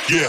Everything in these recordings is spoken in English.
Yeah.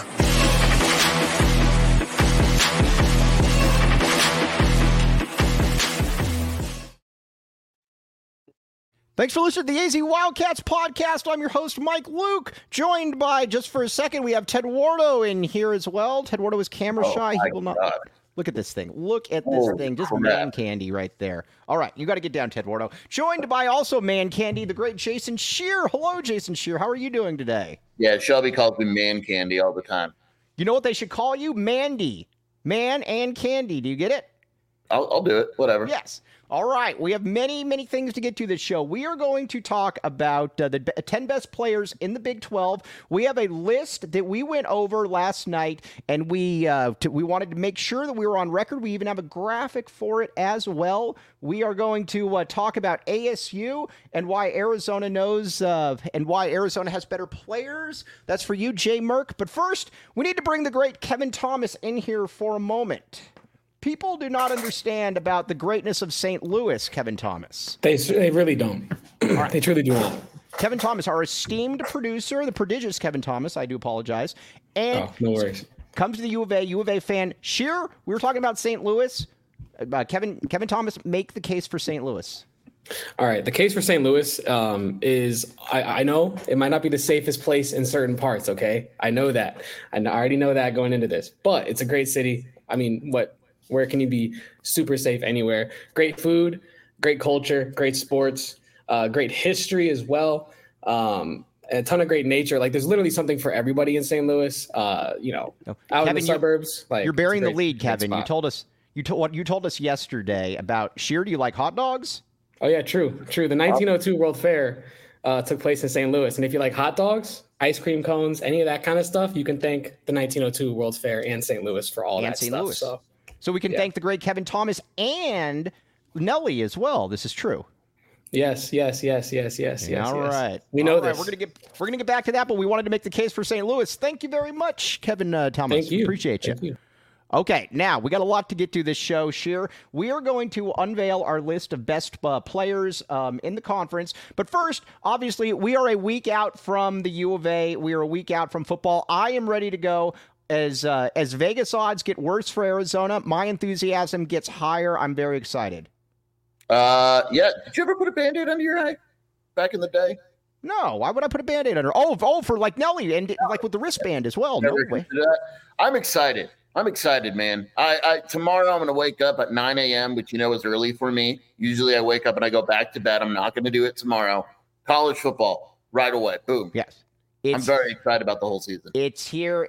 Thanks for listening to the AZ Wildcats podcast. I'm your host, Mike Luke, joined by, just for a second, we have Ted Wardo in here as well. Ted Wardo is camera shy. He will not. Look at this thing. Look at this thing. Just man candy right there. All right, you got to get down, Ted Wardo. Joined by also man candy, the great Jason Scheer. Hello, Jason Scheer. How are you doing today? Yeah, Shelby calls me man candy all the time. You know what they should call you? Mandy. Man and candy. Do you get it? I'll do it. Whatever. Yes. All right, we have many, many things to get to this show. We are going to talk about the 10 best players in the Big 12. We have a list that we went over last night, and we wanted to make sure that we were on record. We even have a graphic for it as well. We are going to talk about ASU and why Arizona knows and why Arizona has better players. That's for you, Jay Merck. But first, we need to bring the great Kevin Thomas in here for a moment. People do not understand about the greatness of St. Louis, Kevin Thomas. They really don't. Right. They truly do not. Kevin Thomas, our esteemed producer, the prodigious Kevin Thomas, I do apologize. And no worries. Comes to the U of A fan. Scheer, we were talking about St. Louis. Kevin Thomas, make the case for St. Louis. All right. The case for St. Louis is, I know it might not be the safest place in certain parts, okay? I know that. I already know that going into this. But it's a great city. I mean, where can you be super safe anywhere? Great food, great culture, great sports, great history as well. A ton of great nature. Like, there's literally something for everybody in St. Louis. Out Kevin, in the suburbs. You're bearing the lead, Kevin. You told us yesterday about Scheer. Do you like hot dogs? Oh yeah, true. The 1902 World Fair took place in St. Louis, and if you like hot dogs, ice cream cones, any of that kind of stuff, you can thank the 1902 World Fair and St. Louis for all that stuff. So we can thank the great Kevin Thomas and Nelly as well. This is true. Yes. All right. We know this. We're gonna get back to that, but we wanted to make the case for St. Louis. Thank you very much, Kevin Thomas. Thank you. Appreciate you. Okay, now we got a lot to get to this show, Scheer. We are going to unveil our list of best players in the conference. But first, obviously, we are a week out from the U of A. We are a week out from football. I am ready to go. As Vegas odds get worse for Arizona, my enthusiasm gets higher. I'm very excited. Yeah. Did you ever put a Band-Aid under your eye back in the day? No. Why would I put a Band-Aid under? Oh, for like Nelly and like with the wristband as well. No way. I'm excited, man. I tomorrow I'm going to wake up at 9 a.m., which is early for me. Usually I wake up and I go back to bed. I'm not going to do it tomorrow. College football right away. Boom. Yes. I'm very excited about the whole season. It's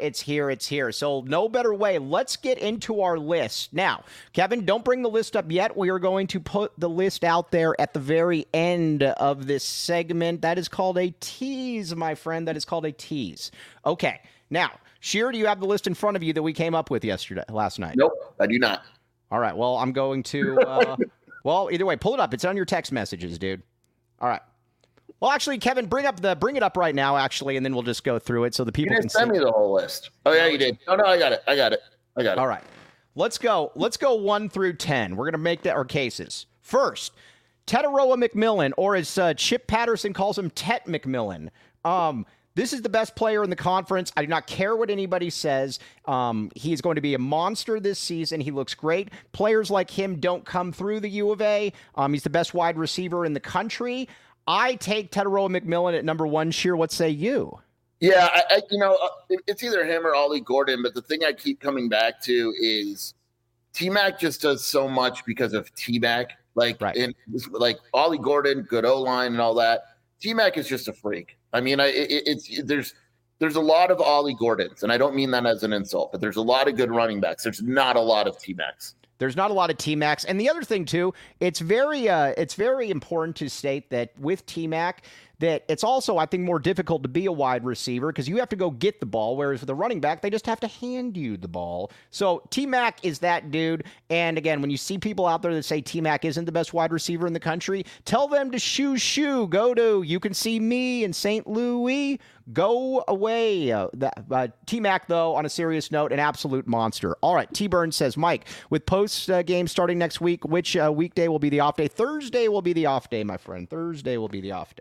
here. So no better way. Let's get into our list. Now, Kevin, don't bring the list up yet. We are going to put the list out there at the very end of this segment. That is called a tease, my friend. That is called a tease. Okay. Now, Scheer, do you have the list in front of you that we came up with last night? Nope, I do not. All right. Well, I'm going to well, either way, pull it up. It's on your text messages, dude. All right. Well, actually, Kevin, bring it up right now, actually, and then we'll just go through it so the people can see. Send me the whole list. Oh, yeah, you did. Oh, no, I got it. All right. Let's go 1 through 10. We're going to make our cases. First, Tetaroa McMillan, or as Chip Patterson calls him, Tet McMillan. This is the best player in the conference. I do not care what anybody says. He is going to be a monster this season. He looks great. Players like him don't come through the U of A. He's the best wide receiver in the country. I take Tetaroa McMillan at number 1. Scheer, what say you? Yeah, it's either him or Ollie Gordon, but the thing I keep coming back to is T-Mac just does so much because of T-Mac. Like Ollie Gordon, good O-line and all that. T-Mac is just a freak. I mean, there's a lot of Ollie Gordons, and I don't mean that as an insult, but there's a lot of good running backs. There's not a lot of T-Macs. There's not a lot of T-Macs. And the other thing, too, it's very important to state that with T-Mac, that it's also, I think, more difficult to be a wide receiver because you have to go get the ball, whereas with a running back, they just have to hand you the ball. So T-Mac is that dude. And again, when you see people out there that say T-Mac isn't the best wide receiver in the country, tell them to shoo. Go to You Can See Me in St. Louis. Go away. T-Mac, though, on a serious note, an absolute monster. All right, T-Burn says, Mike, with post-game starting next week, which weekday will be the off day? Thursday will be the off day, my friend. Thursday will be the off day.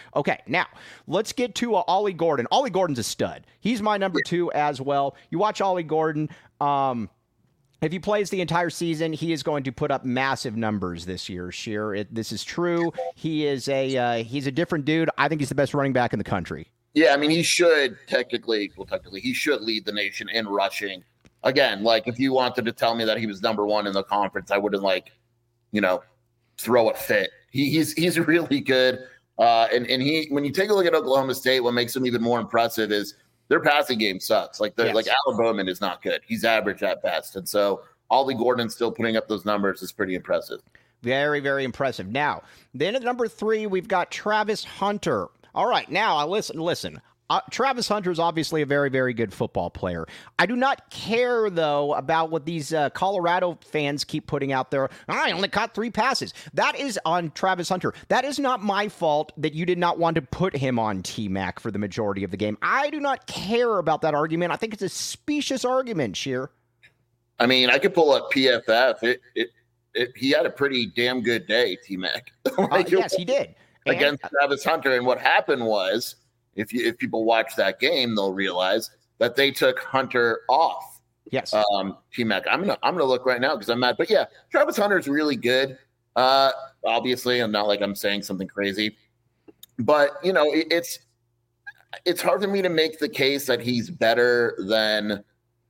Okay, now let's get to Ollie Gordon. Ollie Gordon's a stud. He's my number 2 as well. You watch Ollie Gordon. If he plays the entire season, he is going to put up massive numbers this year. Sheer, this is true. He is he's a different dude. I think he's the best running back in the country. Yeah, I mean, he should technically, he should lead the nation in rushing. Again, like if you wanted to tell me that he was number 1 in the conference, I wouldn't throw a fit. He's really good. And he, when you take a look at Oklahoma State, what makes him even more impressive is their passing game sucks. Like Alan Bowman is not good. He's average at best. And so Ollie Gordon still putting up those numbers is pretty impressive. Very, very impressive. Now, then at number 3, we've got Travis Hunter. All right, now listen. Travis Hunter is obviously a very, very good football player. I do not care, though, about what these Colorado fans keep putting out there. I only caught 3 passes. That is on Travis Hunter. That is not my fault that you did not want to put him on T-Mac for the majority of the game. I do not care about that argument. I think it's a specious argument, Sheer. I mean, I could pull up PFF. He had a pretty damn good day, T-Mac. Yes, he did. Against Travis Hunter. And what happened was, if people watch that game, they'll realize that they took Hunter off. Yes. T-Mac. I'm gonna look right now because I'm mad. But yeah, Travis Hunter's really good. Obviously, I'm not like I'm saying something crazy, but it's hard for me to make the case that he's better than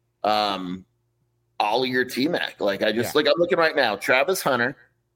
Ollie or T-Mac. Like I'm looking right now. Travis Hunter.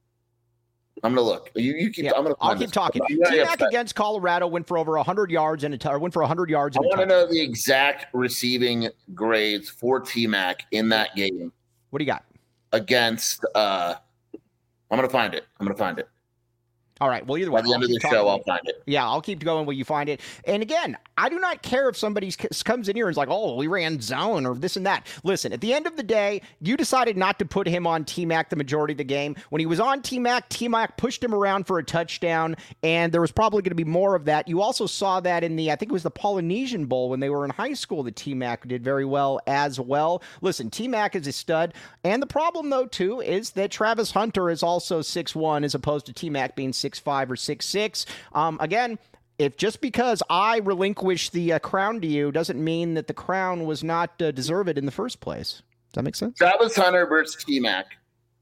I'm gonna look. You keep. Yeah, I'll keep talking. T-Mac against Colorado went for over 100 yards and went for 100 yards. I want to know the exact receiving grades for T-Mac in that game. What do you got against? I'm gonna find it. All right. Well, either way, by the end of the show, I'll find it. Yeah, I'll keep going when you find it. And again, I do not care if somebody comes in here and is like, "Oh, we ran zone" or this and that. Listen, at the end of the day, you decided not to put him on T-Mac the majority of the game. When he was on T-Mac pushed him around for a touchdown, and there was probably going to be more of that. You also saw that in I think it was the Polynesian Bowl when they were in high school. That T-Mac did very well as well. Listen, T-Mac is a stud, and the problem though too is that Travis Hunter is also 6'1" as opposed to T-Mac being 6'5" or 6'6". Again, if just because I relinquish the crown to you doesn't mean that the crown was not deserved in the first place. Does that make sense? Travis Hunter versus T-Mac.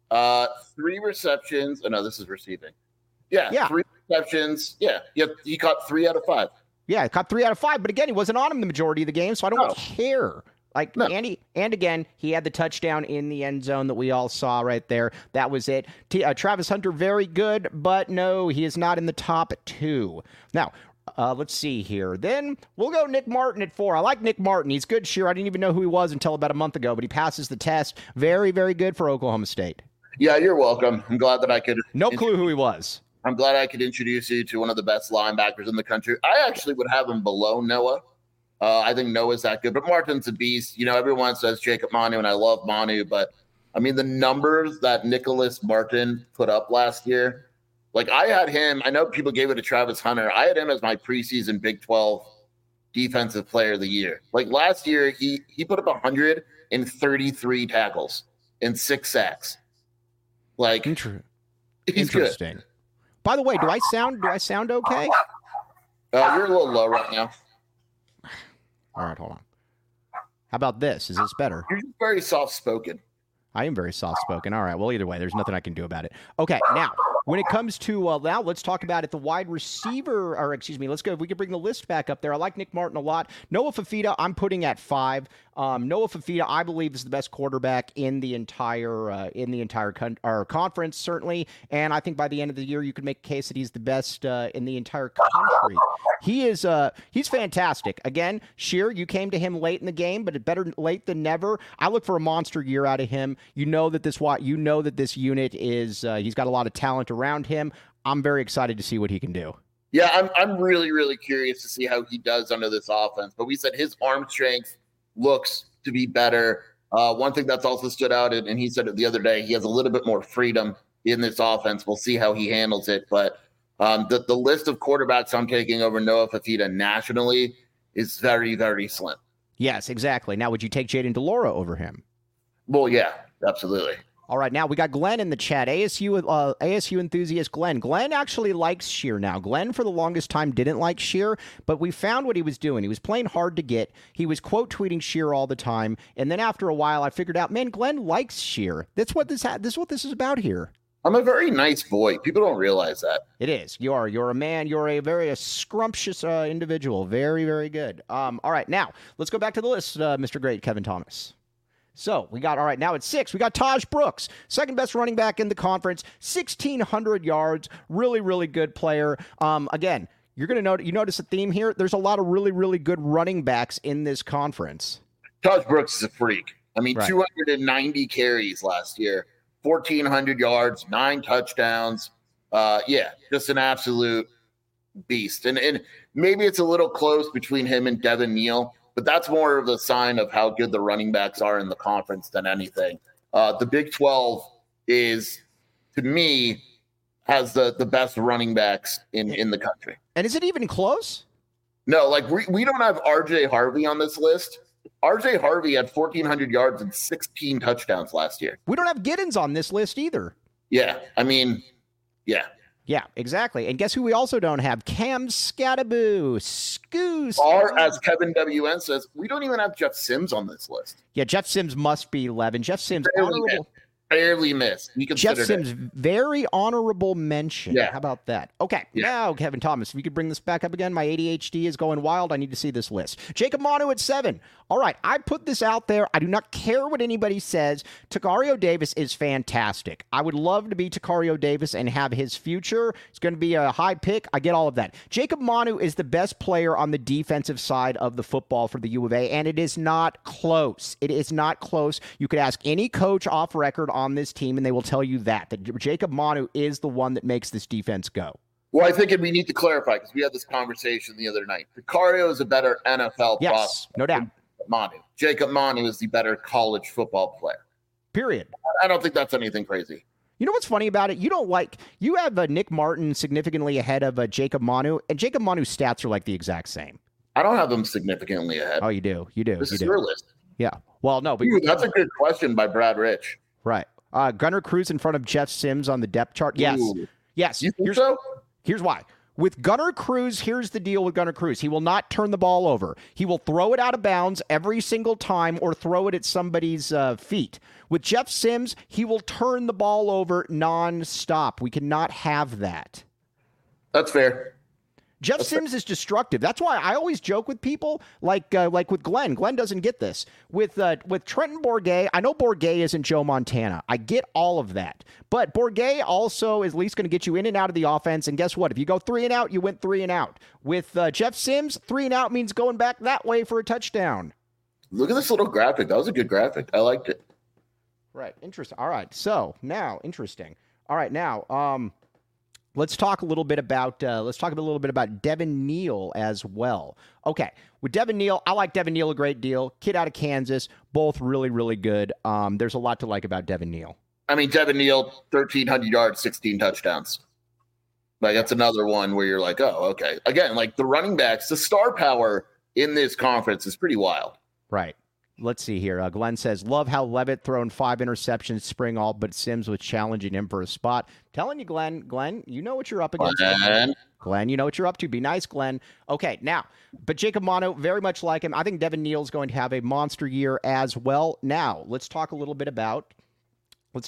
3 receptions. Oh, no, this is receiving. Yeah. 3 receptions. Yeah. He caught 3 out of 5. Yeah, caught 3 out of 5. But again, he wasn't on him the majority of the game, so I don't care. No. And again, he had the touchdown in the end zone that we all saw right there. That was it. Travis Hunter, very good, but no, he is not in the top 2. Now, let's see here. Then we'll go Nick Martin at 4. I like Nick Martin. He's good, sure. I didn't even know who he was until about a month ago, but he passes the test. Very, very good for Oklahoma State. Yeah, you're welcome. I'm glad that I could. No clue who he was. I'm glad I could introduce you to one of the best linebackers in the country. I actually would have him below Noah. I think Noah's that good, but Martin's a beast. Everyone says Jacob Manu, and I love Manu, but I mean, the numbers that Nicholas Martin put up last year, like I had him, I know people gave it to Travis Hunter. I had him as my preseason Big 12 defensive player of the year. Like last year, he put up 133 tackles and 6 sacks. Like he's interesting. Good. By the way, do I sound okay? You're a little low right now. All right, hold on. How about this? Is this better? You're very soft-spoken. I am very soft-spoken. All right. Well, either way, there's nothing I can do about it. Okay. Now, when it comes to now, let's talk about it. The wide receiver, or excuse me, let's go. If we could bring the list back up there. I like Nick Martin a lot. Noah Fifita, I'm putting at 5. Noah Fifita, I believe, is the best quarterback in the entire conference, certainly. And I think by the end of the year, you could make a case that he's the best in the entire country. He's fantastic. Again, Sheer, you came to him late in the game, but better late than never. I look for a monster year out of him. You know that this unit is he's got a lot of talent around him. I'm very excited to see what he can do. Yeah, I'm really, really curious to see how he does under this offense. But we said his arm strength looks to be better. One thing that's also stood out, and he said it the other day, he has a little bit more freedom in this offense. We'll see how he handles it. But the list of quarterbacks I'm taking over Noah Fifita nationally is very, very slim. Yes, exactly. Now, would you take Jayden de Laura over him? Well, yeah, absolutely. All right, now we got Glenn in the chat. ASU enthusiast Glenn. Glenn actually likes Scheer now. Glenn, for the longest time, didn't like Scheer, but we found what he was doing. He was playing hard to get. He was quote tweeting Scheer all the time, and then after a while, I figured out, man, Glenn likes Scheer. That's what this is what this is about here. I'm a very nice boy. People don't realize that. It is. You're a man. You're a very scrumptious individual. Very, very good. All right, now let's go back to the list, Mr. Great Kevin Thomas. So we got, all right, now at 6, we got Taj Brooks, second best running back in the conference, 1,600 yards, really, really good player. Again, you're going to notice a theme here. There's a lot of really, really good running backs in this conference. Taj Brooks is a freak. I mean, Right. 290 carries last year, 1,400 yards, 9 touchdowns. Just an absolute beast. And maybe it's a little close between him and Devin Neal, but that's more of a sign of how good the running backs are in the conference than anything. The Big 12 is, to me, has the best running backs in the country. And is it even close? No, like we don't have RJ Harvey on this list. RJ Harvey had 1,400 yards and 16 touchdowns last year. We don't have Giddens on this list either. Yeah, I mean, yeah. Yeah, exactly. And guess who we also don't have? Cam Scattaboo. Scoos. Or, as Kevin WN says, we don't even have Jeff Sims on this list. Yeah, Jeff Sims must be 11. Jeff Sims, barely missed. Jeff Sims, very honorable mention. Yeah. How about that? Okay, Yeah. Now, Kevin Thomas, if you could bring this back up again. My ADHD is going wild. I need to see this list. Jacob Manu at 7. All right, I put this out there. I do not care what anybody says. Takario Davis is fantastic. I would love to be Takario Davis and have his future. It's going to be a high pick. I get all of that. Jacob Manu is the best player on the defensive side of the football for the U of A, and it is not close. It is not close. You could ask any coach off record on this team, and they will tell you that Jacob Manu is the one that makes this defense go. Well, I think we need to clarify because we had this conversation the other night. Takario is a better NFL prospect. No doubt. Manu. Jacob Manu is the better college football player. Period. I don't think that's anything crazy. You know what's funny about it? You have Nick Martin significantly ahead of Jacob Manu, and Jacob Manu's stats are like the exact same. I don't have them significantly ahead. Oh, you do. This is your list. Yeah. Well, no, but that's a good question by Brad Rich. Right. Gunnar Cruz in front of Jeff Sims on the depth chart. Yes. Ooh. Yes. You think so? Here's why. With Gunnar Cruz, here's the deal with Gunnar Cruz. He will not turn the ball over. He will throw it out of bounds every single time or throw it at somebody's feet. With Jeff Sims, he will turn the ball over nonstop. We cannot have that. That's fair. Jeff Sims is destructive. That's why I always joke with people like with Glenn. Glenn doesn't get this. With Trenton Bourguet, I know Bourguet isn't Joe Montana. I get all of that. But Bourguet also is at least going to get you in and out of the offense. And guess what? If you go 3 and out, you went 3 and out. With Jeff Sims, 3 and out means going back that way for a touchdown. Look at this little graphic. That was a good graphic. I liked it. Right. Interesting. All right. So now, interesting. All right. Now, let's talk a little bit about Devin Neal as well. Okay, with Devin Neal, I like Devin Neal a great deal. Kid out of Kansas, both really, really good. There's a lot to like about Devin Neal. I mean, Devin Neal, 1,300 yards, 16 touchdowns. Like, that's another one where you're like, oh, okay. Again, like the running backs, the star power in this conference is pretty wild. Right. Let's see here. Glenn says, love how Levitt thrown 5 interceptions spring all, but Sims was challenging him for a spot. Telling you, Glenn, you know what you're up against. Glenn, you know what you're up to. Be nice, Glenn. Okay, now, but Jacob Manu, very much like him. I think Devin Neal's going to have a monster year as well. Now, let's talk a little bit about, let's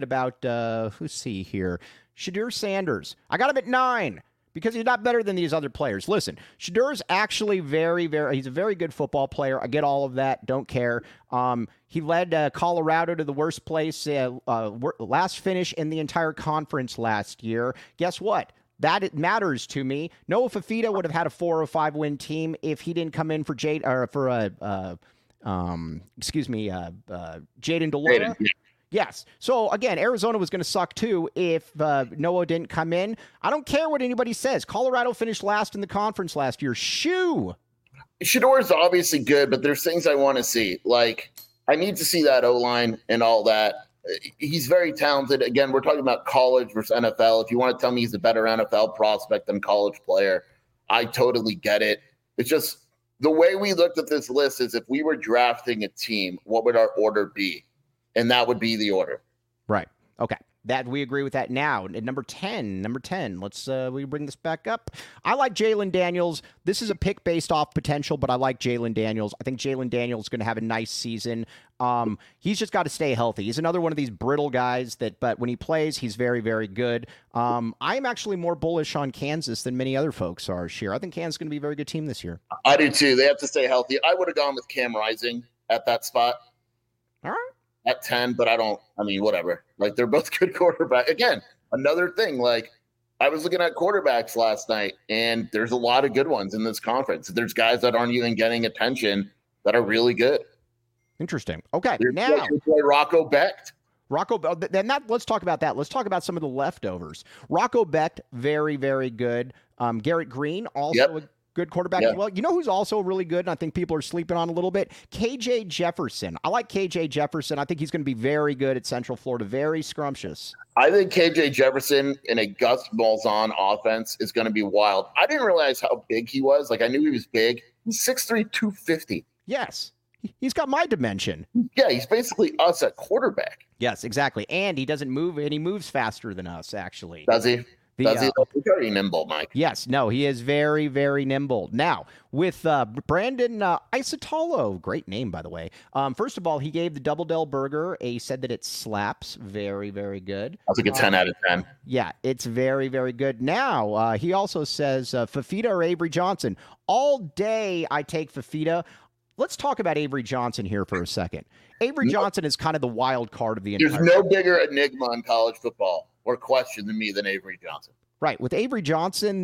see here. Shadur Sanders. I got him at 9. Because he's not better than these other players. Listen, Shadur's actually he's a very good football player. I get all of that. Don't care. He led Colorado to the worst place, last finish in the entire conference last year. Guess what? That it matters to me. Noah Fafita would have had a 4 or 5 win team if he didn't come in for Jaden DeLora. Yes. So, again, Arizona was going to suck, too, if Noah didn't come in. I don't care what anybody says. Colorado finished last in the conference last year. Shoo! Shador is obviously good, but there's things I want to see. Like, I need to see that O-line and all that. He's very talented. Again, we're talking about college versus NFL. If you want to tell me he's a better NFL prospect than college player, I totally get it. It's just the way we looked at this list is if we were drafting a team, what would our order be? And that would be the order. Right. Okay. That we agree with that now. At number 10, let's we bring this back up. I like Jalen Daniels. This is a pick based off potential, but I like Jalen Daniels. I think Jalen Daniels is going to have a nice season. He's just got to stay healthy. He's another one of these brittle guys but when he plays, he's very, very good. I'm actually more bullish on Kansas than many other folks are, Sheer. I think Kansas is going to be a very good team this year. I do too. They have to stay healthy. I would have gone with Cam Rising at that spot. All right. At 10, but whatever. Like, they're both good quarterbacks. Again, another thing, like, I was looking at quarterbacks last night, and there's a lot of good ones in this conference. There's guys that aren't even getting attention that are really good. Interesting. Okay, now Rocco Becht. Let's talk about that. Let's talk about some of the leftovers. Rocco Becht, very, very good. Garrett Green, also a good quarterback as well. You know who's also really good, and I think people are sleeping on a little bit? KJ Jefferson. I like KJ Jefferson. I think he's going to be very good at Central Florida, very scrumptious. I think KJ Jefferson in a Gus Malzahn offense is going to be wild. I didn't realize how big he was. Like, I knew he was big. He's 6'3", 250. Yes. He's got my dimension. Yeah, he's basically us at quarterback. Yes, exactly. And he doesn't move, and he moves faster than us, actually. Does he? He's very nimble, Mike. Yes, no, he is very, very nimble. Now, with Brandon Isotolo, great name, by the way. First of all, he gave the Double Del Burger. He said that it slaps. Very, very good. That's like a 10 out of 10. Yeah, it's very, very good. Now, he also says Fafita or Avery Johnson. All day I take Fafita. Let's talk about Avery Johnson here for a second. Avery Johnson is kind of the wild card of the entire. There's no bigger enigma in college football or question to me than Avery Johnson. Right. With Avery Johnson,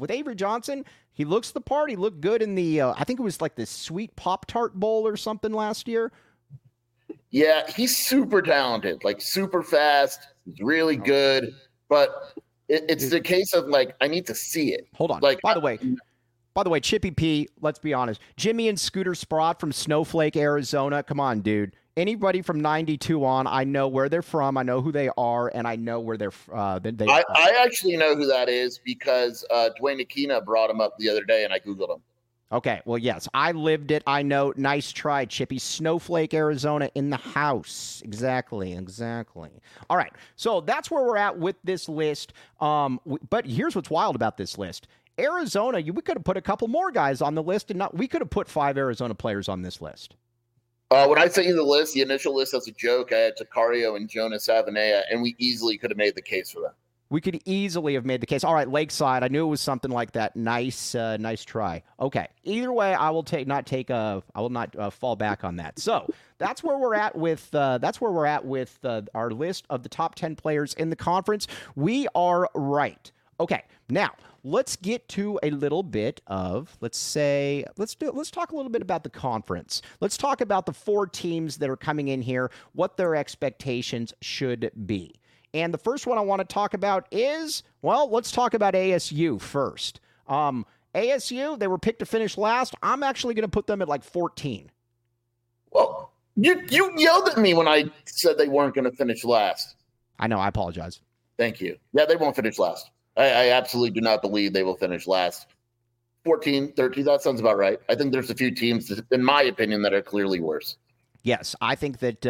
he looks the part. He looked good in the, I think it was like the Sweet Pop-Tart Bowl or something last year. Yeah, he's super talented, like super fast. He's really good. But it's the case of, like, I need to see it. Hold on. By the way, Chippy P, let's be honest. Jimmy and Scooter Sprott from Snowflake, Arizona. Come on, dude. Anybody from 92 on, I know where they're from, I know who they are, and I know where they're I actually know who that is because Dwayne Aquina brought him up the other day, and I Googled him. Okay, well, yes, I lived it. I know. Nice try, Chippy. Snowflake, Arizona in the house. Exactly. All right, so that's where we're at with this list. But here's what's wild about this list. Arizona, we could have put a couple more guys on the list, and we could have put 5 Arizona players on this list. When I sent you the list, the initial list as a joke, I had Takario and Jonas Avenea, and we easily could have made the case for them. We could easily have made the case. All right, Lakeside. I knew it was something like that. Nice try. Okay. Either way, I will not fall back on that. So that's where we're at with our list of the top 10 players in the conference. We are right. Okay. Now let's get to a little bit of, let's talk a little bit about the conference. Let's talk about the 4 teams that are coming in here, what their expectations should be. And the first one I want to talk about is, let's talk about ASU first. ASU, they were picked to finish last. I'm actually going to put them at like 14. Well, you yelled at me when I said they weren't going to finish last. I know. I apologize. Thank you. Yeah, they won't finish last. I absolutely do not believe they will finish last. 14, 13, that sounds about right. I think there's a few teams, in my opinion, that are clearly worse. Yes, I think that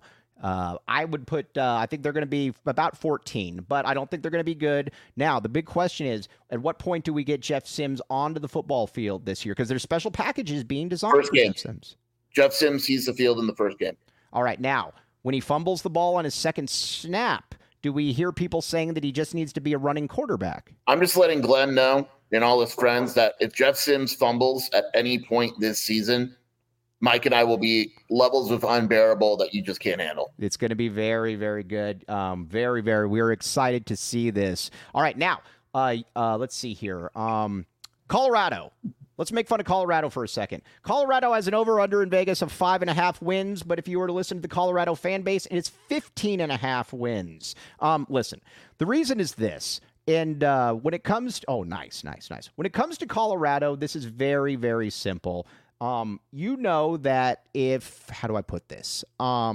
I would put I think they're going to be about 14, but I don't think they're going to be good. Now, the big question is, at what point do we get Jeff Sims onto the football field this year? Because there's special packages being designed first for game. Jeff Sims. Jeff Sims sees the field in the first game. All right, now, when he fumbles the ball on his second snap, do we hear people saying that he just needs to be a running quarterback? I'm just letting Glenn know and all his friends that if Jeff Sims fumbles at any point this season, Mike and I will be levels of unbearable that you just can't handle. It's going to be very, very good. Very, very. We're excited to see this. All right, now, let's see here. Colorado. Let's make fun of Colorado for a second. Colorado has an over-under in Vegas of 5.5 wins, but if you were to listen to the Colorado fan base, it's 15.5 wins. Listen, the reason is this, and when it comes to, nice. When it comes to Colorado, this is very, very simple. You know that how do I put this?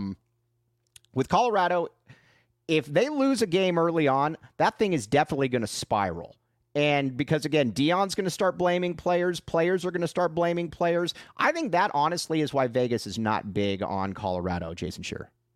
With Colorado, if they lose a game early on, that thing is definitely going to spiral. And because, again, Deion's going to start blaming players. Players are going to start blaming players. I think that, honestly, is why Vegas is not big on Colorado, Jason Scheer.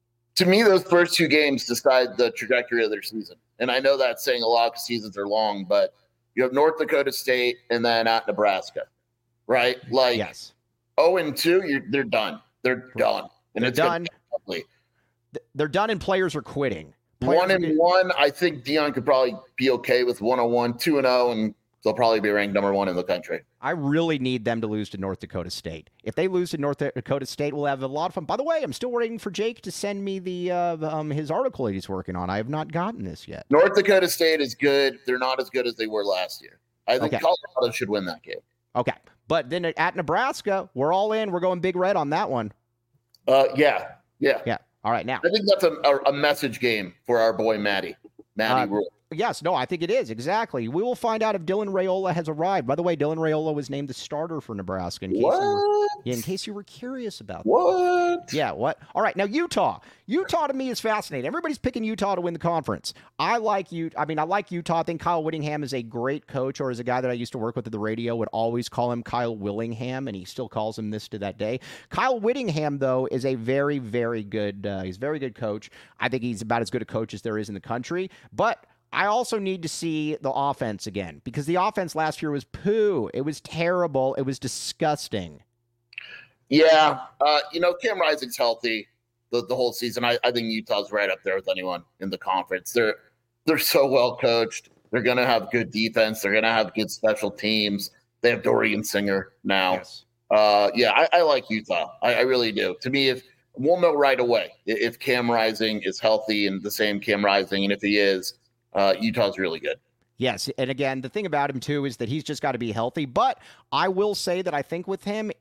to me, those first 2 games decide the trajectory of their season. And I know that's saying a lot because seasons are long, but you have North Dakota State and then at Nebraska, right? Like, yes. 0-2, they're done. They're done. And they're done. They're done, and players are quitting. 1-1, I think Deion could probably be okay with 101, 2-0, and they'll probably be ranked number 1 in the country. I really need them to lose to North Dakota State. If they lose to North Dakota State, we'll have a lot of fun. By the way, I'm still waiting for Jake to send me the his article he's working on. I have not gotten this yet. North Dakota State is good. They're not as good as they were last year. I think Colorado should win that game. Okay. But then at Nebraska, we're all in. We're going Big Red on that one. Yeah. All right, now. I think that's a message game for our boy Matty Rule. Yes, no, I think it is. Exactly. We will find out if Dylan Raiola has arrived. By the way, Dylan Raiola was named the starter for Nebraska. In case you were curious about that. What? Yeah, what? All right, now Utah. Utah to me is fascinating. Everybody's picking Utah to win the conference. I like Utah. I think Kyle Whittingham is a great coach, or is a guy that I used to work with at the radio, would always call him Kyle Willingham, and he still calls him this to that day. Kyle Whittingham, though, is a very, very good, he's a very good coach. I think he's about as good a coach as there is in the country, but I also need to see the offense again, because the offense last year was poo. It was terrible. It was disgusting. Yeah. Cam Rising's healthy the whole season. I think Utah's right up there with anyone in the conference. They're so well coached. They're going to have good defense. They're going to have good special teams. They have Dorian Singer now. Yes. I like Utah. I really do. To me, we'll know right away if Cam Rising is healthy and the same Cam Rising, and if he is, Utah's really good. Yes, and again, the thing about him, too, is that he's just got to be healthy. But I will say that I think with him,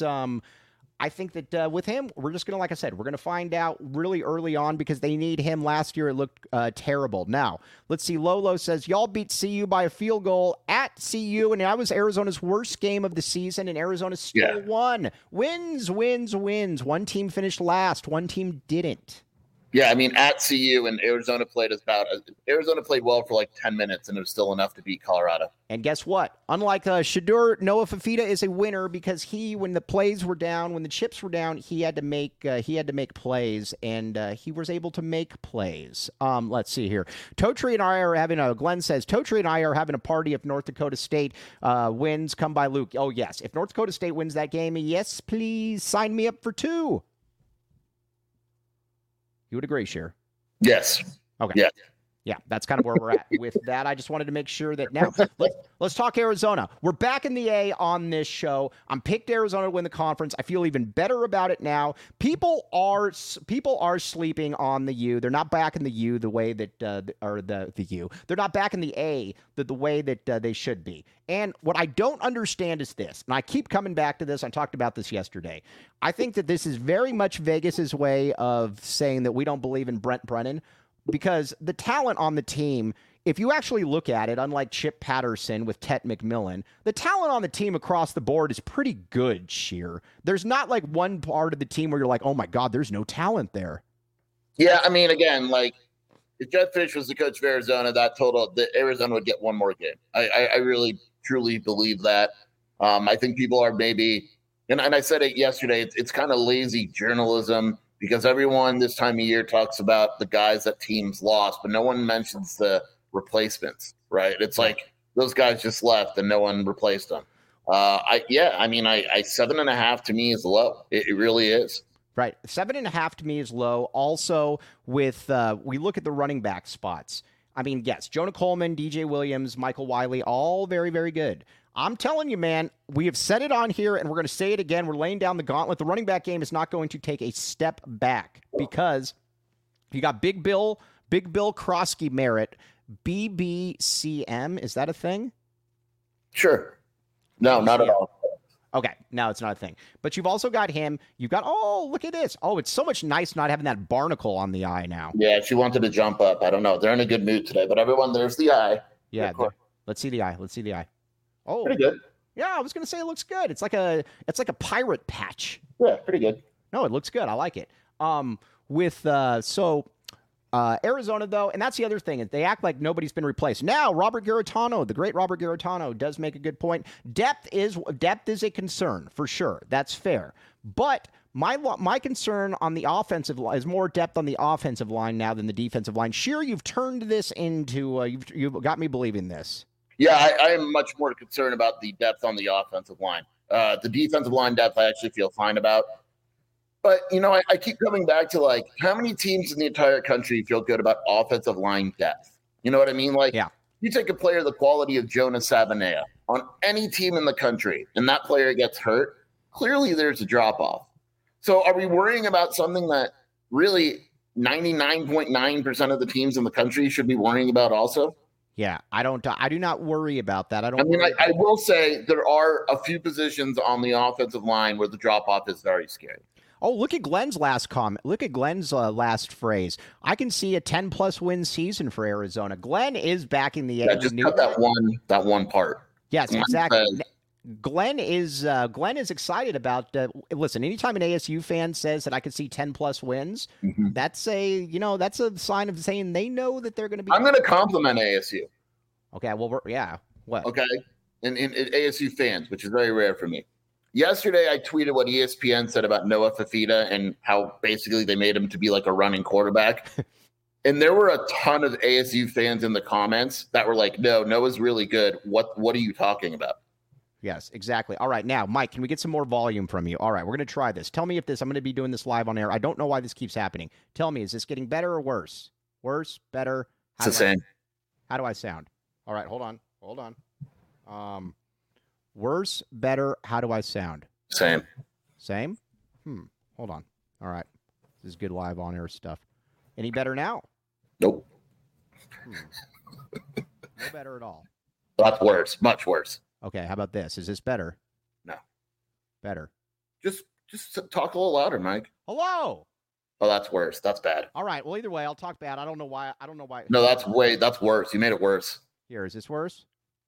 with him, we're just going to, like I said, we're going to find out really early on, because they need him. Last year, it looked terrible. Now, let's see. Lolo says, y'all beat CU by a field goal at CU, and that was Arizona's worst game of the season, and Arizona still won. Wins. One team finished last. One team didn't. Yeah, at CU, and Arizona played well for like 10 minutes, and it was still enough to beat Colorado. And guess what? Unlike Shedeur, Noah Fifita is a winner, because when the plays were down, when the chips were down, he had to make plays, and he was able to make plays. Let's see here. Glenn says, Totri and I are having a party if North Dakota State wins. Come by Luke. Oh, yes. If North Dakota State wins that game, yes, please sign me up for 2. You would agree, Sheer? Yes. Okay. Yeah, that's kind of where we're at with that. I just wanted to make sure that now let's talk Arizona. We're back in the A on this show. I'm picked Arizona to win the conference. I feel even better about it now. People are sleeping on the U. They're not back in the U the way that the U. They're not back in the A the way that they should be. And what I don't understand is this, and I keep coming back to this. I talked about this yesterday. I think that this is very much Vegas's way of saying that we don't believe in Brent Brennan. Because the talent on the team, if you actually look at it, unlike Chip Patterson with Tet McMillan, the talent on the team across the board is pretty good, Sheer. There's not like one part of the team where you're like, oh my God, there's no talent there. Yeah, again, like if Jeff Fish was the coach of Arizona, that Arizona would get one more game. I really, truly believe that. I think people are maybe, and I said it yesterday, it's kind of lazy journalism, because everyone this time of year talks about the guys that teams lost, but no one mentions the replacements, right? It's like those guys just left and no one replaced them. 7.5 to me is low. It really is. Right. 7.5 to me is low. Also, with we look at the running back spots. Yes, Jonah Coleman, DJ Williams, Michael Wiley, all very, very good. I'm telling you, man, we have said it on here, and we're going to say it again. We're laying down the gauntlet. The running back game is not going to take a step back, because you got Big Bill Krosky Merritt, BBCM. Is that a thing? Sure. No, not at all. Okay, no, it's not a thing. But you've also got him. You've got, look at this. Oh, it's so much nice not having that barnacle on the eye now. Yeah, she wanted to jump up. I don't know. They're in a good mood today, but everyone, there's the eye. Yeah, let's see the eye. Oh, pretty good. Yeah, I was going to say it looks good. It's like a pirate patch. Yeah, pretty good. No, it looks good. I like it. Arizona, though, and that's the other thing. They act like nobody's been replaced. Now, Robert Garetano, the great Robert Garetano, does make a good point. Depth is a concern, for sure. That's fair. But My concern on the offensive line is more depth on the offensive line now than the defensive line. Scheer, you've turned this into you've got me believing this. Yeah, I am much more concerned about the depth on the offensive line. The defensive line depth, I actually feel fine about. But, I keep coming back to, like, how many teams in the entire country feel good about offensive line depth? You know what I mean? Like, you take a player the quality of Jonas Savaiinaea on any team in the country, and that player gets hurt, clearly there's a drop-off. So are we worrying about something that really 99.9% of the teams in the country should be worrying about also? Yeah, I do not worry about that. I will say there are a few positions on the offensive line where the drop-off is very scary. Oh, look at Glenn's last comment. Look at Glenn's last phrase. I can see a 10-plus win season for Arizona. Glenn is backing the just cut that one part. Yes, exactly. Glenn is excited about. Listen, anytime an ASU fan says that I could see 10-plus wins, that's a sign of saying they know that they're going to be. I'm going to compliment ASU. Okay, well, what? Okay, and ASU fans, which is very rare for me. Yesterday, I tweeted what ESPN said about Noah Fifita and how basically they made him to be like a running quarterback. And there were a ton of ASU fans in the comments that were like, no, Noah's really good. What are you talking about? Yes, exactly. All right, now, Mike, can we get some more volume from you? All right, we're going to try this. Tell me if I'm going to be doing this live on air. I don't know why this keeps happening. Tell me, is this getting better or worse? Worse, better? It's the same. How do I sound? All right, hold on. Worse, better, how do I sound? Same? Hold on. All right. This is good live on air stuff. Any better now? Nope. No better at all. That's worse. Much worse. Okay, how about this? Is this better? No. Better. Just talk a little louder, Mike. Hello. Oh, that's worse. That's bad. All right. Well, either way, I'll talk bad. I don't know why. No, that's worse. You made it worse. Here, is this worse?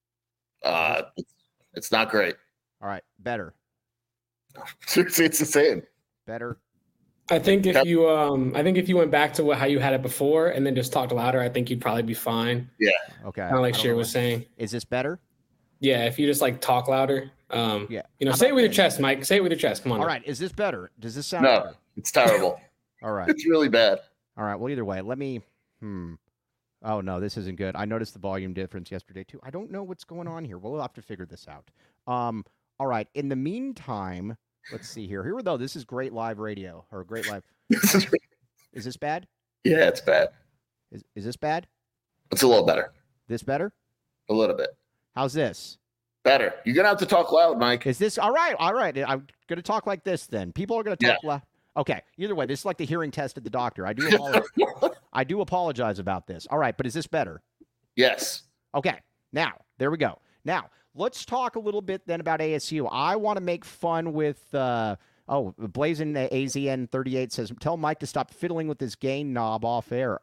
It's not great. All right, better. Seriously, it's the same. Better. I think if you went back to how you had it before and then just talked louder, I think you'd probably be fine. Yeah. Okay. Kind of like Scheer was saying. Is this better? Yeah, if you just like talk louder. Yeah. Say it with your chest, Mike. Say it with your chest. Come on. All right. Is this better? Does this sound No, better? it's terrible. All right. It's really bad. All right. Well, either way, let me. Oh no, this isn't good. I noticed the volume difference yesterday too. I don't know what's going on here. We'll have to figure this out. All right. In the meantime, let's see here. Here we go. This is great live radio or great live. Is this bad? Yeah, it's bad. Is this bad? It's a little better. This better? A little bit. How's this? Better. You're gonna have to talk loud, Mike. Is this all right? All right. I'm gonna talk like this then. People are gonna talk loud. Okay. Either way, this is like the hearing test at the doctor. I do apologize about this. All right, but is this better? Yes. Okay. Now, there we go. Now, let's talk a little bit then about ASU. I want to make fun with Blazing AZN 38 says, tell Mike to stop fiddling with this gain knob off air.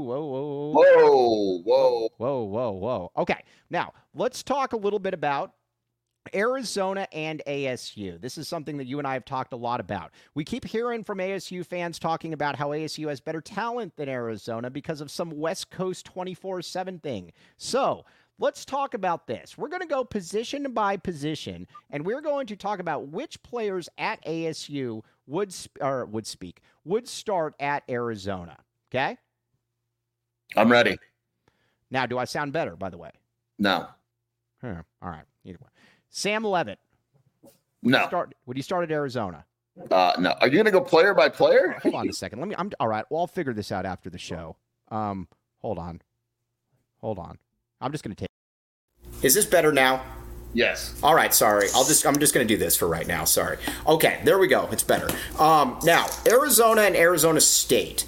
Whoa. Okay. Now, let's talk a little bit about Arizona and ASU. This is something that you and I have talked a lot about. We keep hearing from ASU fans talking about how ASU has better talent than Arizona because of some West Coast 24/7 thing. So let's talk about this. We're going to go position by position, and we're going to talk about which players at ASU would start at Arizona. Okay? I'm ready. Now, do I sound better, by the way? No. All right. Either way. Sam Levitt. No. Would you start at Arizona? No. Are you going to go player by player? Hold on a second. All right. Well, I'll figure this out after the show. Hold on. I'm just going to take. Is this better now? Yes. All right. Sorry. I'm just going to do this for right now. Sorry. Okay. There we go. It's better. Now, Arizona and Arizona State.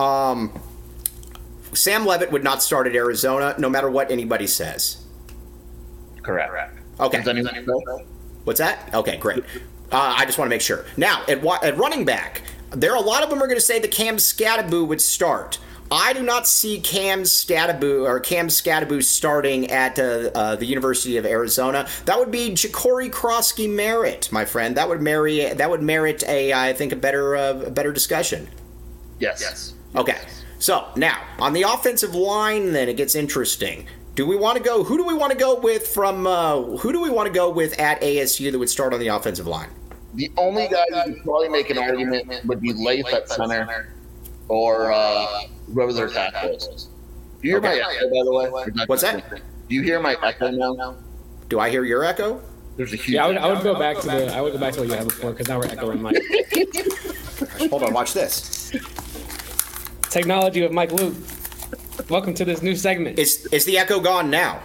Sam Levitt would not start at Arizona, no matter what anybody says. Correct. Okay. What's that? Okay, great. I just want to make sure. Now, at running back, a lot of them are going to say that Cam Skattebo would start. I do not see Cam Skattebo starting at the University of Arizona. That would be Ja'Cory Krosky Merritt, my friend. That would merit a better discussion. Yes. Okay. So now on the offensive line, then it gets interesting. Who do we want to go with at ASU that would start on the offensive line? The only guy you could probably make an argument would be Leif at center or whoever their tackle is. Do you hear my echo, by the way? What's that? Do you hear my echo now? Do I hear your echo? There's a huge. Yeah, I would go back to what you had before because now we're echoing Mike. Hold on, watch this. Technology with Mike Luke. Welcome to this new segment. Is the echo gone now?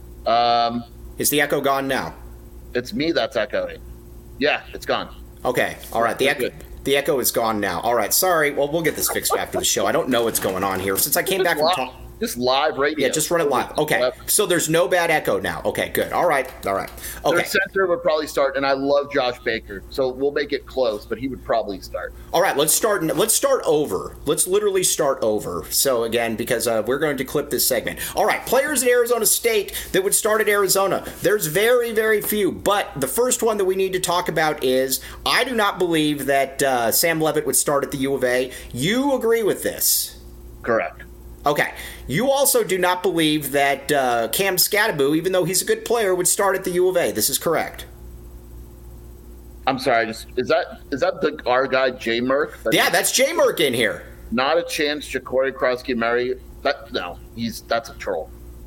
It's the echo gone now? It's me that's echoing. Yeah, it's gone. Okay, all right. The echo is gone now. All right, sorry. Well, we'll get this fixed after the show. I don't know what's going on here since I came back from just live radio. Yeah, just run it live. Okay, so there's no bad echo now. Okay, good. All right. Okay. Their center would probably start, and I love Josh Baker, so we'll make it close, but he would probably start. All right, let's start over. Let's literally start over. So again, because we're going to clip this segment. All right, players at Arizona State that would start at Arizona. There's very, very few, but the first one that we need to talk about is I do not believe that Sam Levitt would start at the U of A. You agree with this? Correct. Okay. You also do not believe that Cam Skattebo, even though he's a good player, would start at the U of A. This is correct. I'm sorry. Is that our guy Jay Merck? That's Jay Merck in here. Not a chance. Ja'Cory Krosky-Murray. That's a troll.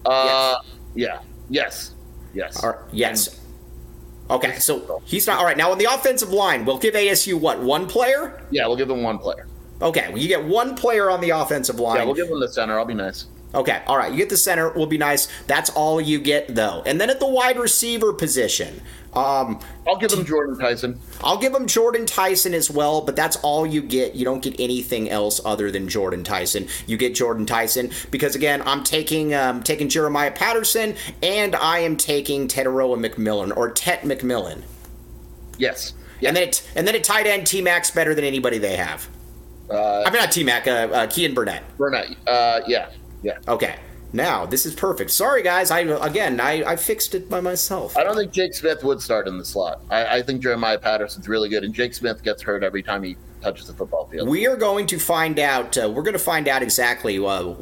Yes. Yeah. Yes. All right. Yes. Okay. So he's not all right. Now on the offensive line, we'll give ASU what? One player? Yeah, we'll give them one player. Okay, well, you get one player on the offensive line. Yeah, we'll give him the center. I'll be nice. Okay, all right. You get the center. Will be nice. That's all you get, though. And then at the wide receiver position, I'll give him Jordan Tyson. I'll give him Jordan Tyson as well, but that's all you get. You don't get anything else other than Jordan Tyson. You get Jordan Tyson because, again, I'm taking Jeremiah Patterson, and I am taking Teteroa McMillan, or Tet McMillan. Yes. And then at tight end, T-Mac's better than anybody they have. Not T-Mac, Kean Burnett. Yeah. Okay. Now, this is perfect. Sorry, guys. I fixed it by myself. I don't think Jake Smith would start in the slot. I think Jeremiah Patterson's really good, and Jake Smith gets hurt every time he touches the football field. We are going to find out. We're going to find out exactly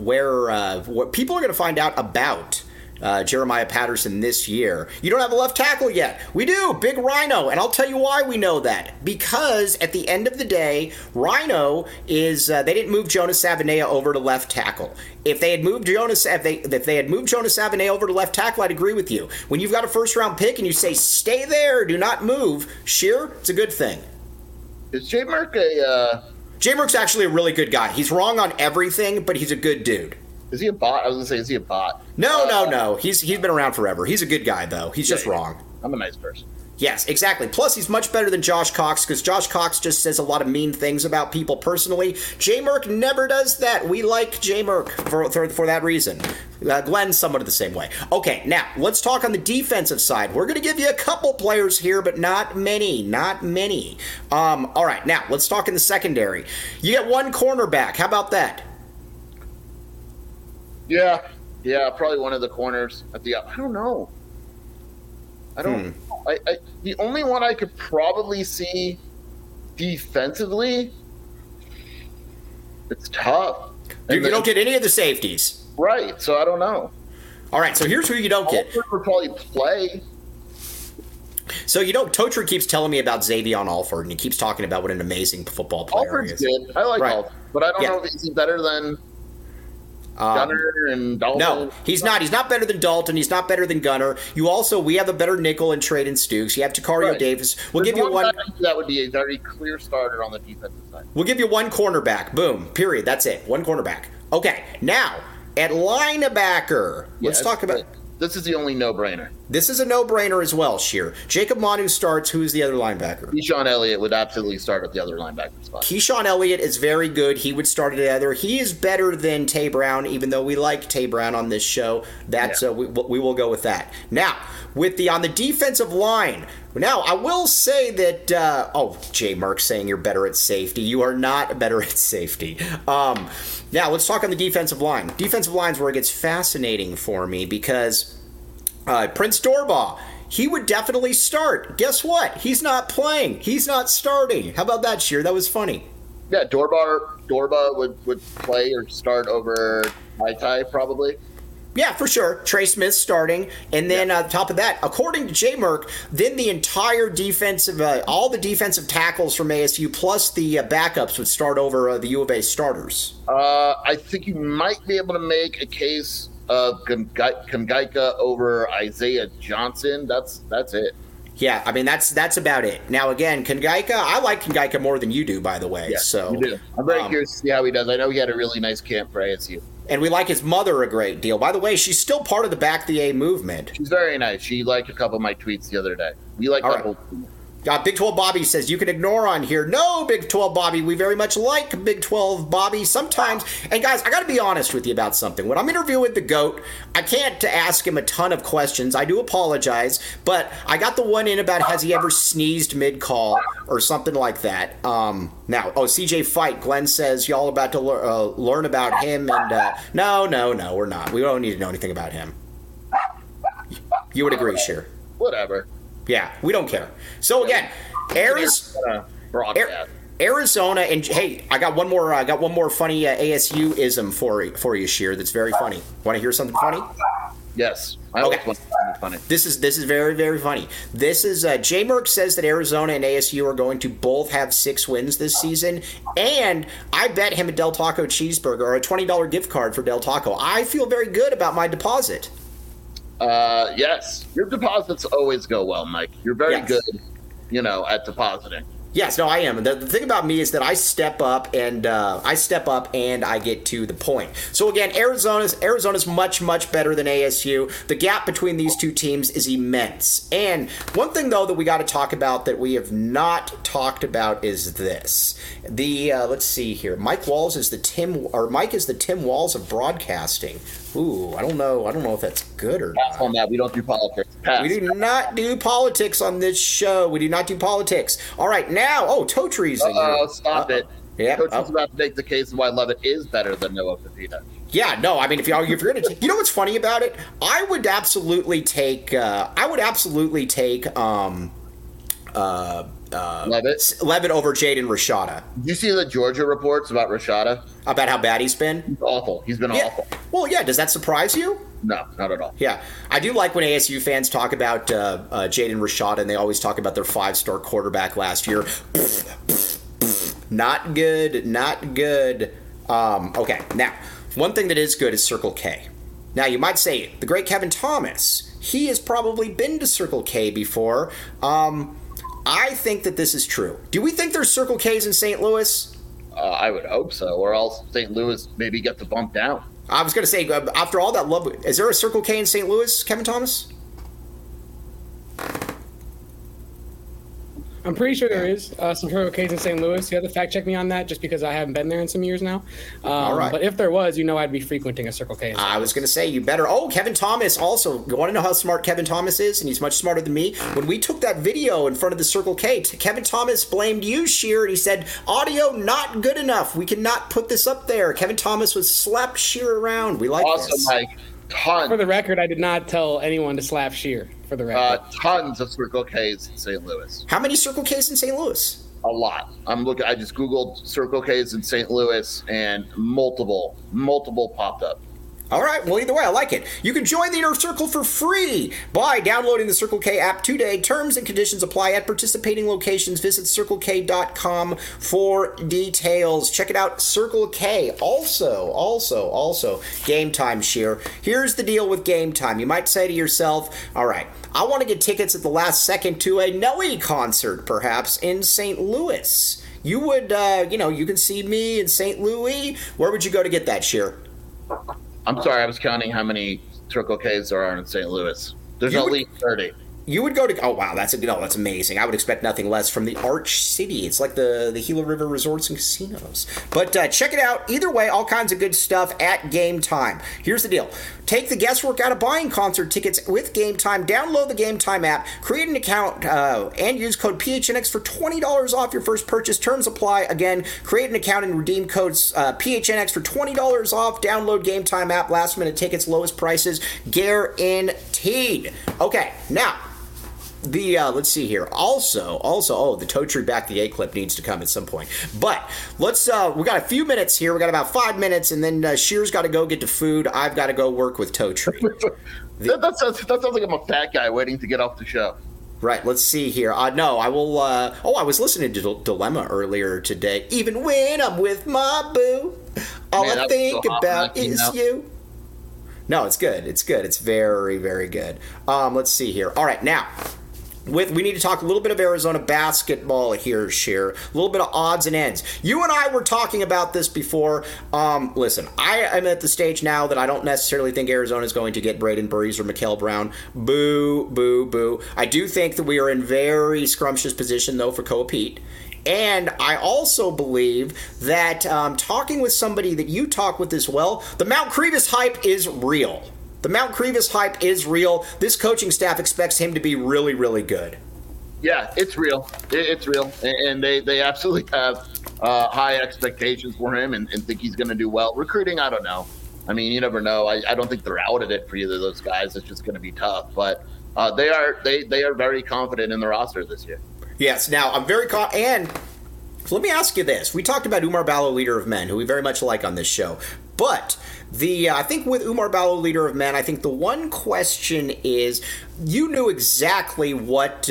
what people are going to find out about Jeremiah Patterson this year. You don't have a left tackle yet. We do. Big Rhino. And I'll tell you why we know that. Because at the end of the day, Rhino is they didn't move Jonas Savanea over to left tackle. If they had moved Jonas Savanea over to left tackle, I'd agree with you. When you've got a first round pick and you say stay there, do not move, sure, it's a good thing. Is Jay Merck Jay Merck's actually a really good guy. He's wrong on everything, but he's a good dude. Is he a bot? I was going to say, is he a bot? No. He's been around forever. He's a good guy, though. He's just wrong. I'm a nice person. Yes, exactly. Plus, he's much better than Josh Cox because Josh Cox just says a lot of mean things about people personally. Jay Merck never does that. We like Jay Merck for that reason. Glenn's somewhat the same way. Okay, now, let's talk on the defensive side. We're going to give you a couple players here, but not many. All right, now, let's talk in the secondary. You get one cornerback. How about that? Yeah, probably one of the corners at the. I don't know. The only one I could probably see defensively. It's tough. You don't get any of the safeties, right? So I don't know. All right, so here's who you don't get. Alford would probably play. So Totri keeps telling me about Xavion Alford, and he keeps talking about what an amazing football player Alford's he is. good. I like Alford, but I don't know if he's better than Gunner and Dalton. No, he's not. He's not better than Dalton. He's not better than Gunner. We have a better nickel in Traden Stukes. You have Takario Davis. We'll give you one. That would be a very clear starter on the defensive side. We'll give you one cornerback. Boom. Period. That's it. One cornerback. Okay. Now at linebacker, let's talk about. This is the only no-brainer. This is a no-brainer as well, Sheer. Jacob Manu starts. Who's the other linebacker? Keyshawn Elliott would absolutely start at the other linebacker spot. Keyshawn Elliott is very good. He would start at the other. He is better than Tay Brown, even though we like Tay Brown on this show. We will go with that. Now, on the defensive line. Now, I will say that, Jay Merck saying you're better at safety. You are not better at safety. Now, let's talk on the defensive line. Defensive line's where it gets fascinating for me because Prince Dorbah, he would definitely start. Guess what? He's not playing. He's not starting. How about that, Sheer? That was funny. Yeah, Dorbah would play or start over Maitai probably. Yeah, for sure. Trey Smith starting. And then on top of that, according to J Merck, then the entire defensive, all the defensive tackles from ASU plus the backups would start over the U of A starters. I think you might be able to make a case of Kongaika over Isaiah Johnson. That's it. Yeah, I mean, that's about it. Now, again, Kongaika, I like Kongaika more than you do, by the way. Yeah, so you do. I'm very curious to see how he does. I know he had a really nice camp for ASU. And we like his mother a great deal. By the way, she's still part of the Back the A movement. She's very nice. She liked a couple of my tweets the other day. We like that whole thing. Big 12 Bobby says, you can ignore on here. No, Big 12 Bobby, we very much like Big 12 Bobby sometimes. And guys, I got to be honest with you about something. When I'm interviewing the GOAT, I can't ask him a ton of questions. I do apologize. But I got the one in about has he ever sneezed mid-call or something like that. CJ Fight, Glenn says, y'all about to learn about him. And no, we're not. We don't need to know anything about him. You would agree, Sheer? Whatever. Yeah, we don't care. So again, Arizona, and hey, I got one more funny ASU ism for you, Sheer. That's very funny. Want to hear something funny? Yes. I always want something funny. This is very, very funny. This is J Merck says that Arizona and ASU are going to both have 6 wins this season, and I bet him a Del Taco cheeseburger or a $20 gift card for Del Taco. I feel very good about my deposit. Yes. Your deposits always go well, Mike. You're very good, at depositing. Yes, no, I am. The thing about me is that I step up and I get to the point. So again, Arizona's much, much better than ASU. The gap between these two teams is immense. And one thing though that we got to talk about that we have not talked about is this. Let's see here. Mike is the Tim Walz of broadcasting. Ooh, I don't know if that's good or not. On that, we don't do politics. Pass. We do not do politics on this show. We do not do politics. All right, now, Totree's in here. Oh, stop it. Yeah. Totree's about to make the case of why Levitt is better than Noah Fifita. Yeah, no, I mean, if you're going to take, you know what's funny about it? I would absolutely take Levitt over Jaden Rashada. Did you see the Georgia reports about Rashada? About how bad he's been? He's awful. He's been awful. Well, yeah. Does that surprise you? No, not at all. Yeah. I do like when ASU fans talk about Jaden Rashada, and they always talk about their 5-star quarterback last year. Not good. Not good. Okay. Now, one thing that is good is Circle K. Now, you might say, the great Kevin Thomas, he has probably been to Circle K before. I think that this is true. Do we think there's Circle K's in St. Louis? I would hope so, or else St. Louis maybe get the bump down. I was going to say, after all that love, is there a Circle K in St. Louis, Kevin Thomas? I'm pretty sure there is some Circle K's in St. Louis. You have to fact check me on that just because I haven't been there in some years now. All right. But if there was, I'd be frequenting a Circle K. I was going to say, you better. Oh, Kevin Thomas also. You want to know how smart Kevin Thomas is? And he's much smarter than me. When we took that video in front of the Circle K, Kevin Thomas blamed you, Sheer, and he said, audio not good enough. We cannot put this up there. Kevin Thomas was slapped Sheer around. We like this. Awesome, Mike. Tons. For the record, I did not tell anyone to slap Sheer. For the record, tons of Circle K's in St. Louis. How many Circle K's in St. Louis? A lot. I just Googled Circle K's in St. Louis, and multiple popped up. All right. Well, either way, I like it. You can join the Inner Circle for free by downloading the Circle K app today. Terms and conditions apply at participating locations. Visit CircleK.com for details. Check it out, Circle K. Also, Game Time, Sheer. Here's the deal with Game Time. You might say to yourself, all right, I want to get tickets at the last second to a Nelly concert, perhaps, in St. Louis. You would, you can see me in St. Louis. Where would you go to get that, Sheer? I'm sorry, I was counting how many Circle K's there are in St. Louis. There's at least 30. You would go to, oh wow, that's amazing. I would expect nothing less from the Arch City. It's like the Gila River Resorts and Casinos. But check it out. Either way, all kinds of good stuff at Game Time. Here's the deal. Take the guesswork out of buying concert tickets with Game Time. Download the Game Time app, create an account, and use code PHNX for $20 off your first purchase. Terms apply. Again, create an account and redeem codes PHNX for $20 off. Download Game Time app. Last minute tickets, lowest prices, guaranteed. Okay, now, let's see here. Also, the Totri back the A clip needs to come at some point. But let's. We got a few minutes here. We got about 5 minutes, and then Shear's got to go get to food. I've got to go work with Totri. That sounds like I'm a fat guy waiting to get off the show. Right. Let's see here. No, I will. I was listening to Dilemma earlier today. Even when I'm with my boo, all I think about is you. No, it's good. It's good. It's very, very good. Let's see here. All right, now. We need to talk a little bit of Arizona basketball here, Sheer. A little bit of odds and ends. You and I were talking about this before. Listen, I am at the stage now that I don't necessarily think Arizona is going to get Braden Burries or Mikal Brown. Boo, boo, boo. I do think that we are in very scrumptious position, though, for Koa Pete. And I also believe that talking with somebody that you talk with as well, the Mount Crevis hype is real. The Mount Crevis hype is real. This coaching staff expects him to be really, really good. Yeah, it's real. It's real. And they absolutely have high expectations for him and think he's going to do well. Recruiting, I don't know. I mean, you never know. I don't think they're out at it for either of those guys. It's just going to be tough. But they are very confident in the roster this year. Yes. Now, I'm very and let me ask you this. We talked about Oumar Ballo, leader of men, who we very much like on this show. But I think with Oumar Ballo, leader of men, I think the one question is you knew exactly what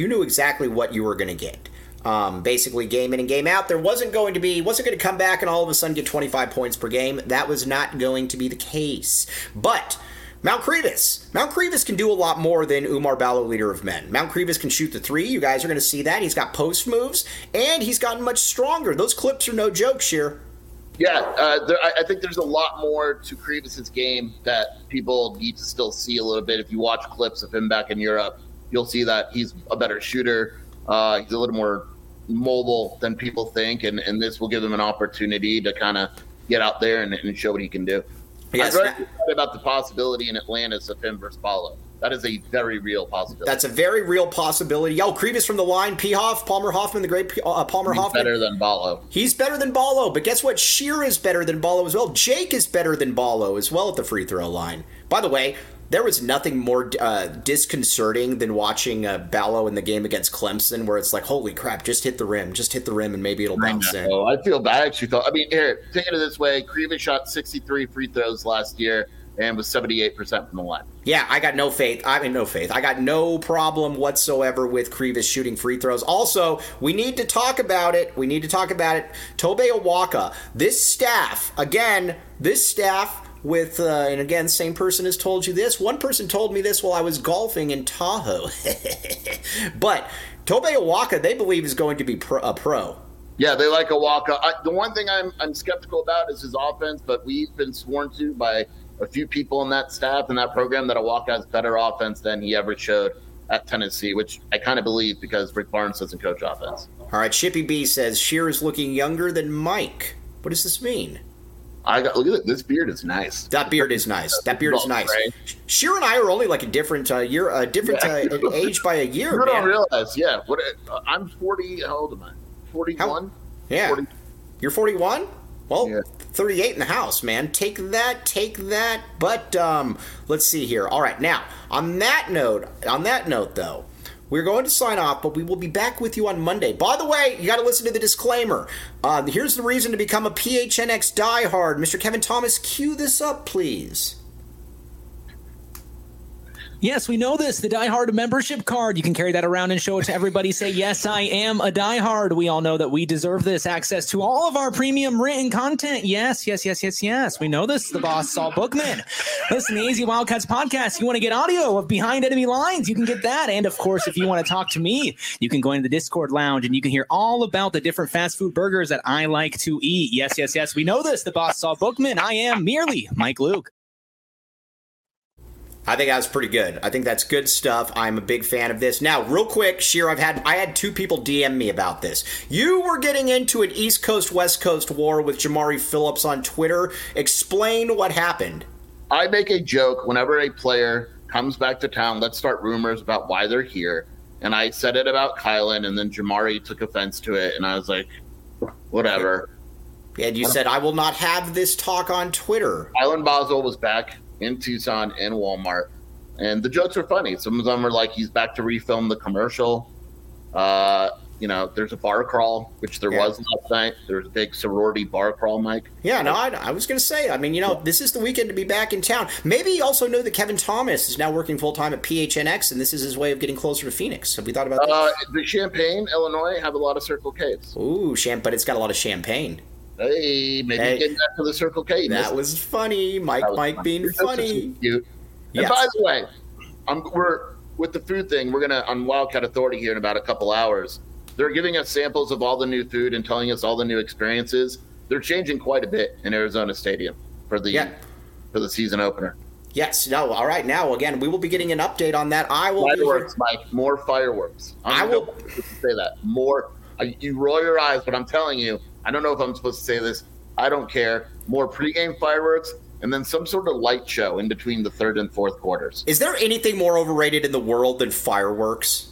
you were going to get. Basically, game in and game out. There wasn't going to come back and all of a sudden get 25 points per game. That was not going to be the case. But Mount Crevis can do a lot more than Oumar Ballo, leader of men. Mount Crevis can shoot the three. You guys are going to see that. He's got post moves, and he's gotten much stronger. Those clips are no joke, Sheer. Yeah, I think there's a lot more to Crevis's game that people need to still see a little bit. If you watch clips of him back in Europe, you'll see that he's a better shooter. He's a little more mobile than people think, and this will give him an opportunity to kind of get out there and show what he can do. Yes. I'm very excited about the possibility in Atlantis of him versus Ballo. That is a very real possibility. That's a very real possibility. Yo, Crevis from the line, Palmer Hoffman, the great Palmer Hoffman. Better than Ballo. He's better than Ballo, but guess what? Sheer is better than Ballo as well. Jake is better than Ballo as well at the free throw line. By the way, there was nothing more disconcerting than watching Ballo in the game against Clemson, where it's like, holy crap, just hit the rim, and maybe it'll bounce in. I feel bad. I actually thought, here, take it this way. Crevis shot 63 free throws last year and was 78% from the line. Yeah, I got no faith. I got no problem whatsoever with Crevis shooting free throws. Also, we need to talk about it. Tobe Awaka, this staff with, and again, same person has told you this. One person told me this while I was golfing in Tahoe. But Tobe Awaka, they believe, is going to be a pro. Yeah, they like Awaka. The one thing I'm skeptical about is his offense, but we've been sworn to by a few people in that staff and that program that Awaka has better offense than he ever showed at Tennessee, which I kind of believe because Rick Barnes doesn't coach offense. All right, Shippy B says Sheer is looking younger than Mike. What does this mean? Look at it. This beard is nice. That beard is nice. Sheer and I are only like a different age by a year. You don't realize, yeah. I'm 40. How old am I? 41. Yeah, 40. You're 41. Well, yeah. 38 in the house, man. Take that. But let's see here. All right, now on that note, though, we're going to sign off, but we will be back with you on Monday. By the way, you got to listen to the disclaimer. Here's the reason to become a PHNX diehard. Mr. Kevin Thomas, cue this up, please. Yes, we know this. The Die Hard membership card. You can carry that around and show it to everybody. Say, yes, I am a Die Hard. We all know that we deserve this. Access to all of our premium written content. Yes. We know this. The boss, Saul Bookman. Listen, the AZ Wildcats podcast. You want to get audio of Behind Enemy Lines? You can get that. And, of course, if you want to talk to me, you can go into the Discord lounge and you can hear all about the different fast food burgers that I like to eat. Yes. We know this. The boss, Saul Bookman. I am merely Mike Luke. I think that was pretty good. I think that's good stuff. I'm a big fan of this. Now, real quick, Sheer, I had two people DM me about this. You were getting into an East Coast, West Coast war with Jamari Phillips on Twitter. Explain what happened. I make a joke whenever a player comes back to town. Let's start rumors about why they're here. And I said it about Kylan, and then Jamari took offense to it. And I was like, whatever. And you said, I will not have this talk on Twitter. Kylan Boswell was back in Tucson in Walmart. And the jokes are funny. Some of them are like he's back to refilm the commercial. There's a bar crawl, which there was last night. There's a big sorority bar crawl, Mike. Yeah, no, I was going to say, this is the weekend to be back in town. Maybe you also know that Kevin Thomas is now working full-time at PHNX, and this is his way of getting closer to Phoenix. Have we thought about that? The Champaign, Illinois, have a lot of Circle K's. Ooh, but it's got a lot of champagne. Hey, maybe getting back to the Circle K. That was funny. Mike being funny. Cute. Yes. And by the way, we're with the food thing. We're going to, on Wildcat Authority here in about a couple hours, they're giving us samples of all the new food and telling us all the new experiences. They're changing quite a bit in Arizona Stadium for the season opener. Yes. No. All right. Now, again, we will be getting an update on that. Fireworks, Mike. More fireworks. I will say that. More. You roll your eyes, but I'm telling you, I don't know if I'm supposed to say this. I don't care. More pregame fireworks, and then some sort of light show in between the third and fourth quarters. Is there anything more overrated in the world than fireworks?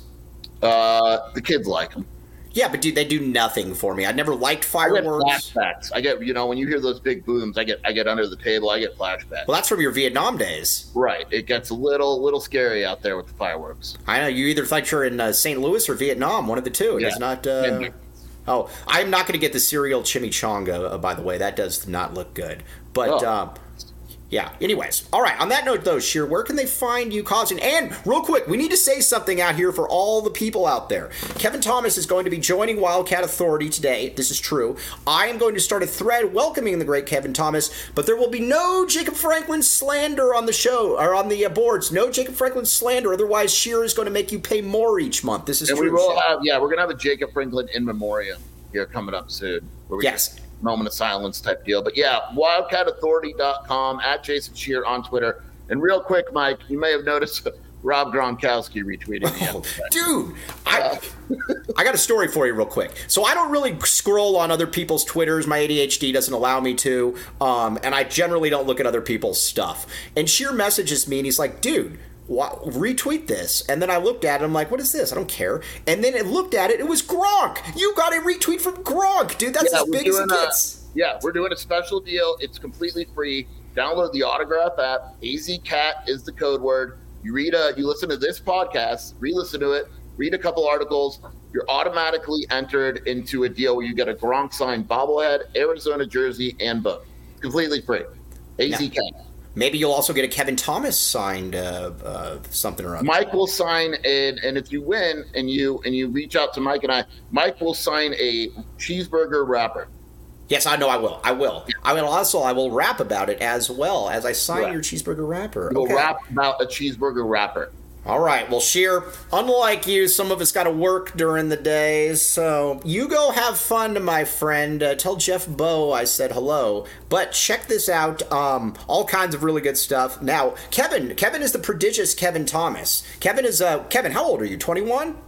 The kids like them. Yeah, but they do nothing for me. I never liked fireworks. I get flashbacks. I get, when you hear those big booms, I get under the table. I get flashbacks. Well, that's from your Vietnam days. Right. It gets a little scary out there with the fireworks. I know. You either thought you're in St. Louis or Vietnam, one of the two. It's not... Oh, I'm not going to get the cereal chimichanga, by the way. That does not look good. But... Yeah. Anyways. All right. On that note, though, Sheer, where can they find you causing? And real quick, we need to say something out here for all the people out there. Kevin Thomas is going to be joining Wildcat Authority today. This is true. I am going to start a thread welcoming the great Kevin Thomas, but there will be no Jacob Franklin slander on the show or on the boards. No Jacob Franklin slander. Otherwise, Sheer is going to make you pay more each month. This is true. And we will have, we're going to have a Jacob Franklin in memoriam here coming up soon. Yes. Moment of silence type deal. But wildcatauthority.com, at Jason Shear on Twitter. And real quick, Mike, you may have noticed Rob Gronkowski retweeted me. Dude, I got a story for you real quick. So I don't really scroll on other people's Twitters. My ADHD doesn't allow me to. And I generally don't look at other people's stuff. And Sheer messages me and he's like, dude, retweet this. And then I looked at it. I'm like, what is this? I don't care. And then it looked at it. It was Gronk. You got a retweet from Gronk, dude. That's as big as it gets. We're doing a special deal. It's completely free. Download the Autograph app. AZCat is the code word. You listen to this podcast, re-listen to it, read a couple articles. You're automatically entered into a deal where you get a Gronk signed bobblehead, Arizona jersey, and book. Completely free. AZCat. Yeah. Maybe you'll also get a Kevin Thomas signed something or other. Mike will sign, and if you win and you reach out to Mike and I, Mike will sign a cheeseburger wrapper. Yes, I know I will. I will rap about it as well as I sign your cheeseburger wrapper. You'll rap about a cheeseburger wrapper. All right. Well, Sheer, unlike you, some of us got to work during the day, so you go have fun, my friend. Tell Jeff Bowe I said hello. But check this out. All kinds of really good stuff. Now, Kevin is the prodigious Kevin Thomas. Kevin, how old are you? 21? I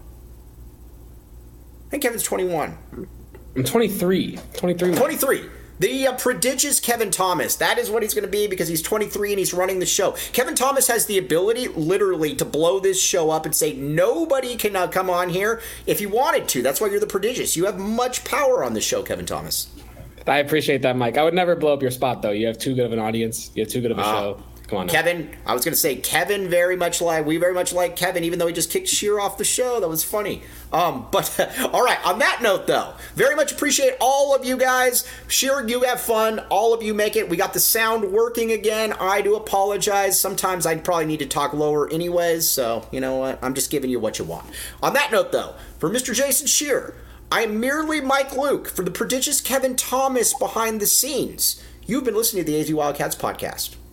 think Kevin's 21. I'm 23. 23. The prodigious Kevin Thomas. That is what he's going to be because he's 23 and he's running the show. Kevin Thomas has the ability, literally, to blow this show up and say nobody can come on here if you wanted to. That's why you're the prodigious. You have much power on the show, Kevin Thomas. I appreciate that, Mike. I would never blow up your spot, though. You have too good of an audience. You have too good of a show. Come on now. Kevin, I was going to say, we very much like Kevin, even though he just kicked Sheer off the show. That was funny. But all right, on that note, though, very much appreciate all of you guys. Sheer, you have fun. All of you make it. We got the sound working again. I do apologize. Sometimes I probably need to talk lower anyways, so you know what? I'm just giving you what you want. On that note, though, for Mr. Jason Sheer, I am merely Mike Luke for the prodigious Kevin Thomas behind the scenes. You've been listening to the AZ Wildcats podcast.